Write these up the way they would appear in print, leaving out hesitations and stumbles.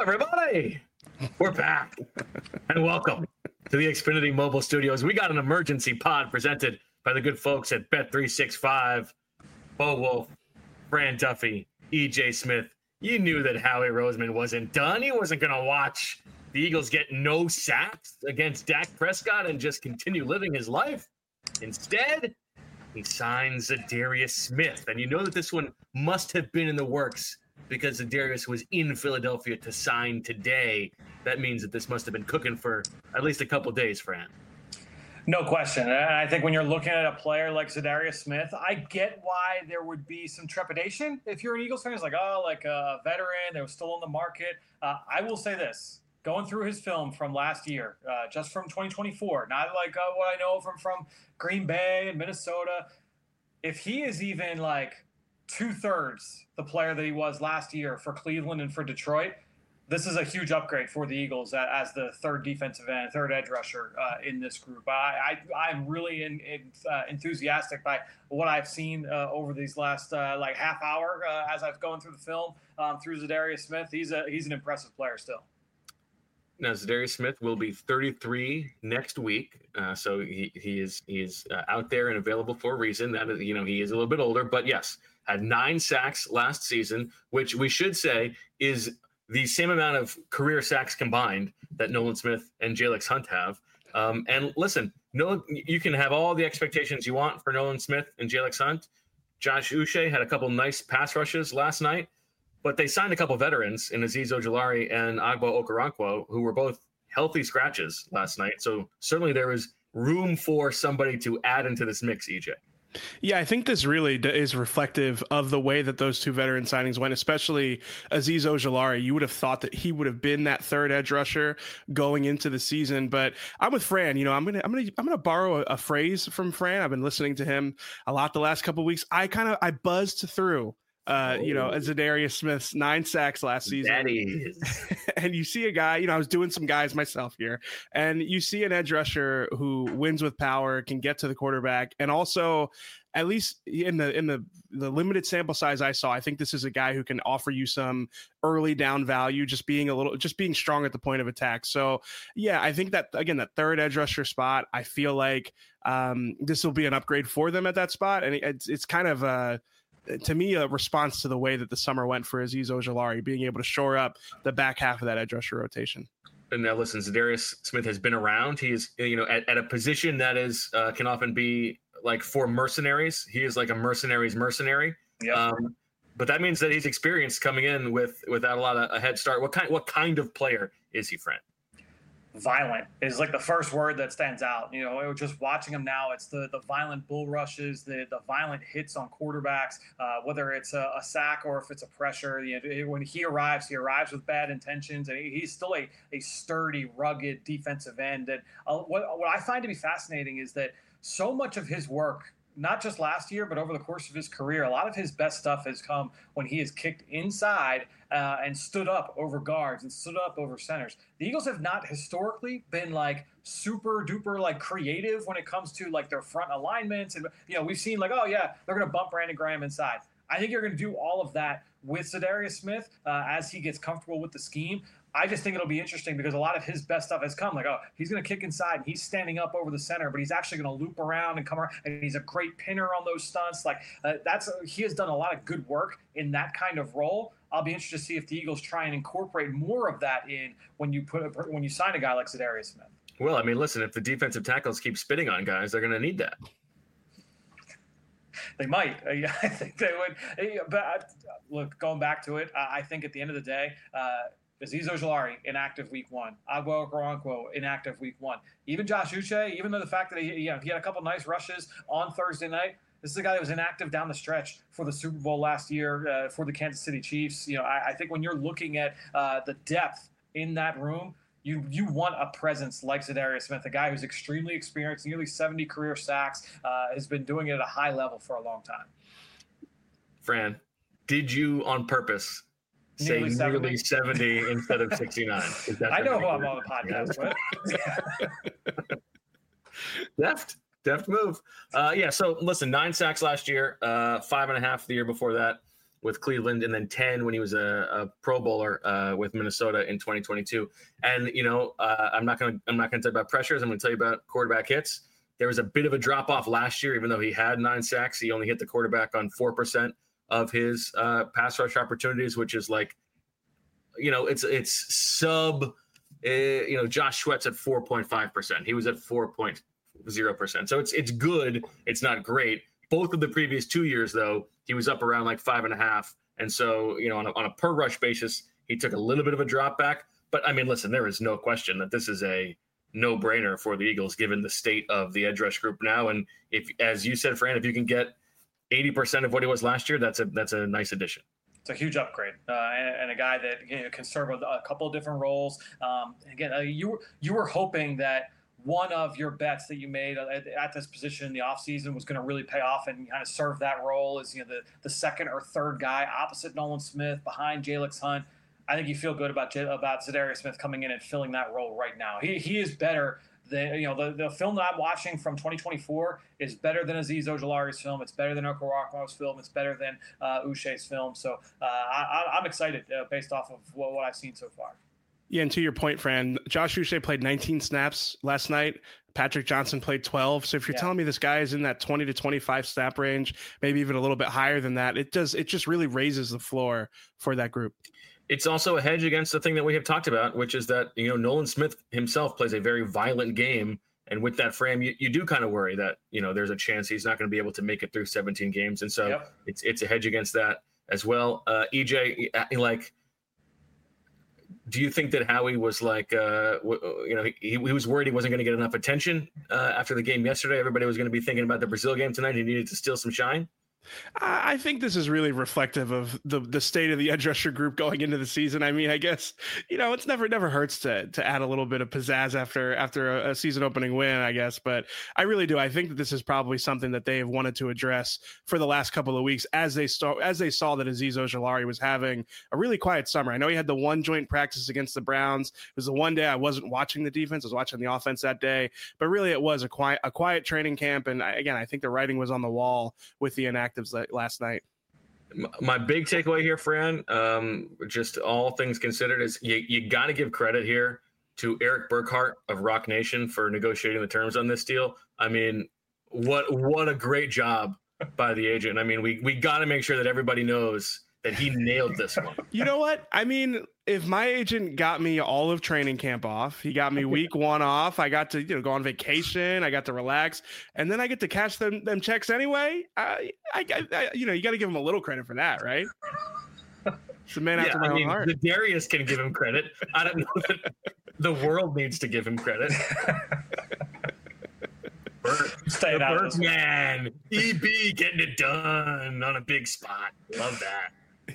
everybody. We're back. And welcome to the Xfinity Mobile Studios. We got an emergency pod presented by the good folks at Bet365. Bo Wolf, Fran Duffy, EJ Smith. You knew that Howie Roseman wasn't done. He wasn't going to watch the Eagles get no sacks against Dak Prescott and just continue living his life. Instead, he signs Za'Darius Smith. And you know that this one must have been in the works because Za'Darius was in Philadelphia to sign today. That means that this must have been cooking for at least a couple days, Fran. No question. And I think when you're looking at a player like Za'Darius Smith, I get why there would be some trepidation if you're an Eagles fan. It's like, like a veteran that was still on the market. I will say this. Going through his film from last year, just from 2024, not like what I know from Green Bay and Minnesota. If he is even like 2/3 the player that he was last year for Cleveland and for Detroit, this is a huge upgrade for the Eagles as the third defensive end, third edge rusher in this group. I'm really enthusiastic by what I've seen over these last half hour as I've gone through the film through Za'Darius Smith. He's an impressive player still. Now, Za'Darius Smith will be 33 next week, so he is out there and available for a reason. That is, he is a little bit older, but yes, had 9 sacks last season, which we should say is the same amount of career sacks combined that Nolan Smith and Jalen Hunt have. And listen, you can have all the expectations you want for Nolan Smith and Jalen Hunt. Josh Uche had a couple nice pass rushes last night. But they signed a couple veterans in Azeez Ojulari and Agbo Okoronkwo, who were both healthy scratches last night. So certainly there was room for somebody to add into this mix, EJ. Yeah, I think this really is reflective of the way that those two veteran signings went, especially Azeez Ojulari. You would have thought that he would have been that third edge rusher going into the season, but I'm with Fran. I'm gonna borrow a phrase from Fran. I've been listening to him a lot the last couple of weeks. I buzzed through Za'Darius Smith's 9 sacks last season. That is. And you see a guy, I was doing some guys myself here, and you see an edge rusher who wins with power, can get to the quarterback, and also, at least in the limited sample size I saw, I think this is a guy who can offer you some early down value, just being strong at the point of attack. So yeah, I think that again, that third edge rusher spot, I feel like this will be an upgrade for them at that spot, and it's kind of to me, a response to the way that the summer went for Azeez Ojulari, being able to shore up the back half of that edge rusher rotation. And now listen, Za'Darius Smith has been around. He is, at a position that is can often be like for mercenaries. He is like a mercenary's mercenary. Yep. But that means that he's experienced coming in without a lot of a head start. What kind of player is he, Fran? Violent is like the first word that stands out. Just watching him now, it's the violent bull rushes, the violent hits on quarterbacks, whether it's a sack or if it's a pressure. When he arrives with bad intentions, and he's still a sturdy, rugged defensive end. And what I find to be fascinating is that so much of his work, not just last year, but over the course of his career, a lot of his best stuff has come when he has kicked inside and stood up over guards and stood up over centers. The Eagles have not historically been like super duper like creative when it comes to like their front alignments. And, we've seen like, oh yeah, they're going to bump Brandon Graham inside. I think you're going to do all of that with Za'Darius Smith as he gets comfortable with the scheme. I just think it'll be interesting because a lot of his best stuff has come. Like, he's going to kick inside and he's standing up over the center, but he's actually going to loop around and come around, and he's a great pinner on those stunts. Like, he has done a lot of good work in that kind of role. I'll be interested to see if the Eagles try and incorporate more of that in when you sign a guy like Za'Darius Smith. Well, I mean, listen, if the defensive tackles keep spitting on guys, they're going to need that. They might. I think they would. But look, going back to it, I think at the end of the day, Azeez Ojulari inactive week 1. Agbo Okoronkwo inactive week 1. Even Josh Uche, even though the fact that he had a couple nice rushes on Thursday night, this is a guy that was inactive down the stretch for the Super Bowl last year for the Kansas City Chiefs. I think when you're looking at the depth in that room, you want a presence like Za'Darius Smith, a guy who's extremely experienced, nearly 70 career sacks, has been doing it at a high level for a long time. Fran, did you on purpose say nearly 70 instead of 69? I know who I'm on the podcast with. Deft move. So listen, 9 sacks last year, 5.5 the year before that. with Cleveland, and then 10 when he was a Pro Bowler with Minnesota in 2022. And I'm not gonna tell you about pressures. I'm gonna tell you about quarterback hits. There was a bit of a drop off last year, even though he had 9 sacks. He only hit the quarterback on 4% of his pass rush opportunities, which is like, it's sub. Josh Sweat's at 4.5%. He was at 4.0%. So it's good. It's not great. Both of the previous 2 years, though, he was up around like 5.5. And so, on a per rush basis, he took a little bit of a drop back. But I mean, listen, there is no question that this is a no-brainer for the Eagles, given the state of the edge rush group now. And if, as you said, Fran, if you can get 80% of what he was last year, that's a nice addition. It's a huge upgrade, and a guy that can serve a couple of different roles. Again, you were hoping that one of your bets that you made at this position in the offseason was going to really pay off and kind of serve that role as the second or third guy opposite Nolan Smith, behind Jalix Hunt. I think you feel good about Za'Darius Smith coming in and filling that role right now. He is better than the film that I'm watching from 2024 is better than Azeez Ojulari's film. It's better than Okoronkwo's film. It's better than Uche's film. So I'm excited based off of what I've seen so far. Yeah, and to your point, Fran, Josh Uche played 19 snaps last night. Patrick Johnson played 12. So if you're telling me this guy is in that 20 to 25 snap range, maybe even a little bit higher than that, it just really raises the floor for that group. It's also a hedge against the thing that we have talked about, which is that, Nolan Smith himself plays a very violent game. And with that frame, you do kind of worry that, there's a chance he's not going to be able to make it through 17 games. And so it's a hedge against that as well. EJ, do you think that Howie was like, he was worried he wasn't going to get enough attention after the game yesterday? Everybody was going to be thinking about the Brazil game tonight. He needed to steal some shine. I think this is really reflective of the state of the edge rusher group going into the season. I mean, I guess, it's never hurts to add a little bit of pizzazz after a season opening win, I guess. But I really do. I think that this is probably something that they have wanted to address for the last couple of weeks as they saw that Azeez Ojulari was having a really quiet summer. I know he had the one joint practice against the Browns. It was the one day I wasn't watching the defense. I was watching the offense that day. But really, it was a quiet training camp. And I think the writing was on the wall with the inactives last night. My big takeaway here, Fran, just all things considered, is you got to give credit here to Eric Burkhart of Rock Nation for negotiating the terms on this deal. I mean, what a great job by the agent. I mean, we got to make sure that everybody knows that he nailed this one. You know what? I mean, if my agent got me all of training camp off, he got me week 1 off, I got to go on vacation, I got to relax, and then I get to cash them checks anyway. I you got to give him a little credit for that, right? It's a man after my own heart. Darius can give him credit. I don't know that the world needs to give him credit. Burke man, EB getting it done on a big spot. Love that.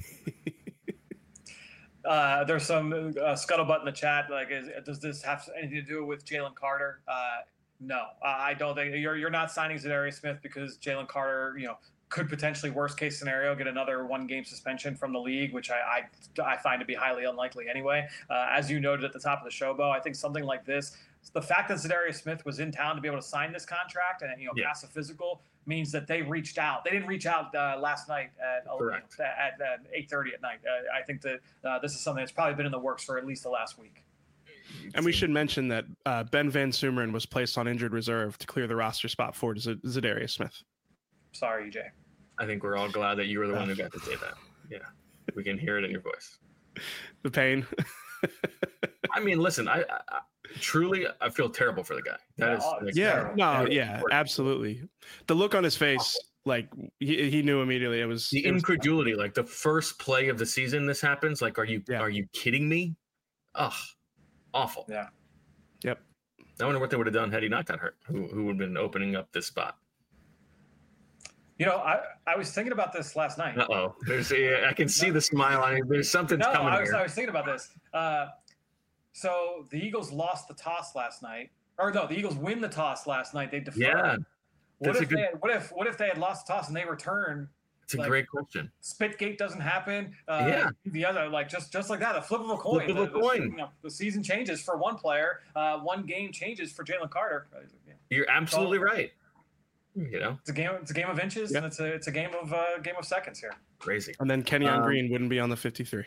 There's some scuttlebutt in the chat. Like, does this have anything to do with Jalen Carter? No, I don't think you're not signing Za'Darius Smith because Jalen Carter, could potentially, worst case scenario, get another 1-game suspension from the league, which I find to be highly unlikely anyway. As you noted at the top of the show, Bo, I think something like this, the fact that Za'Darius Smith was in town to be able to sign this contract and pass a physical means that they reached out. They didn't reach out last night at 8:30 at night. I think that this is something that's probably been in the works for at least the last week. And we should mention that Ben Van Sumeren was placed on injured reserve to clear the roster spot for Za'Darius Smith. Sorry, EJ. I think we're all glad that you were the one who got to say that. Yeah, we can hear it in your voice. The pain. I mean, listen, I truly feel terrible for the guy. Absolutely. The look on his face, like he knew immediately. It was the incredulity. Like the first play of the season, this happens. Like, are you kidding me? Ugh, awful. Yeah. Yep. I wonder what they would have done had he not got hurt. Who would have been opening up this spot? I was thinking about this last night. Uh-oh. I can see the smile on it. There's something coming here. I was thinking about this. So the Eagles lost the toss last night. Or no, the Eagles win the toss last night. They deferred. Yeah. What if they had lost the toss and they return? It's a great question. Spitgate doesn't happen. The other, just like that, a flip of a coin. The season changes for one player. 1 game changes for Jalen Carter. You're absolutely right. You know, it's a game of inches, and it's a game of seconds here. Crazy. And then Kenyon Green wouldn't be on the 53.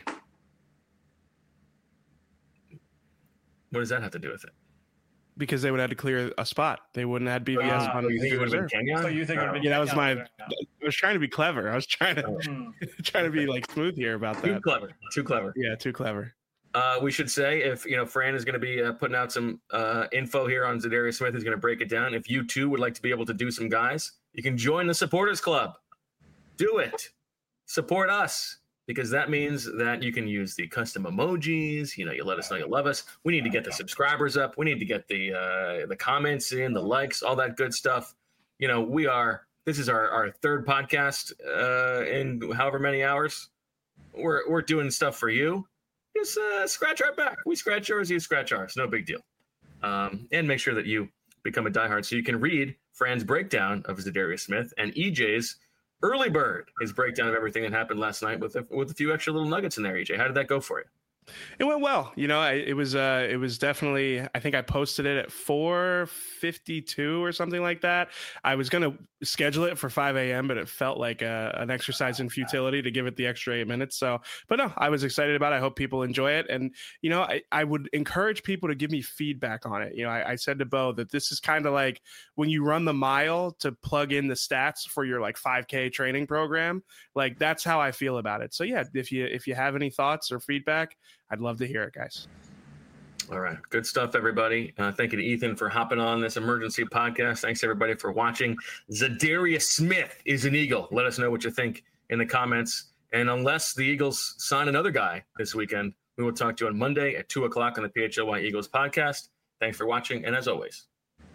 What does that have to do with it? Because they would have to clear a spot. They wouldn't have BVS on you think it would have been Kenyon? So you think it would have been Yeah, that was Kenyon? I was trying to be clever. I was trying to be like smooth here about that. Too clever. Yeah, too clever. We should say, if Fran is going to be putting out some info here on Za'Darius Smith, who's going to break it down. If you too would like to be able to do some guys, you can join the Supporters Club. Do it. Support us, because that means that you can use the custom emojis. You let us know you love us. We need to get the subscribers up. We need to get the comments in, the likes, all that good stuff. This is our third podcast in however many hours. We're doing stuff for you. Just scratch our back. We scratch yours, you scratch ours. No big deal. And make sure that you become a diehard so you can read Fran's breakdown of Za'Darius Smith and EJ's early bird, his breakdown of everything that happened last night with a few extra little nuggets in there. EJ, how did that go for you? It went well. It was definitely, I think I posted it at 4:52 or something like that. I was going to schedule it for 5 a.m., but it felt like an exercise in futility to give it the extra 8 minutes. But no, I was excited about it. I hope people enjoy it. And, I would encourage people to give me feedback on it. I said to Bo that this is kind of like when you run the mile to plug in the stats for your 5K training program. Like, that's how I feel about it. So yeah, if you have any thoughts or feedback, I'd love to hear it, guys. All right. Good stuff, everybody. Thank you to Ethan for hopping on this emergency podcast. Thanks, everybody, for watching. Za'Darius Smith is an Eagle. Let us know what you think in the comments. And unless the Eagles sign another guy this weekend, we will talk to you on Monday at 2 o'clock on the PHLY Eagles podcast. Thanks for watching. And as always,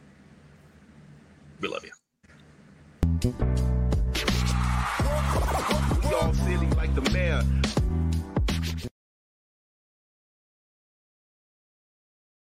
we love you. Y'all silly like the mayor.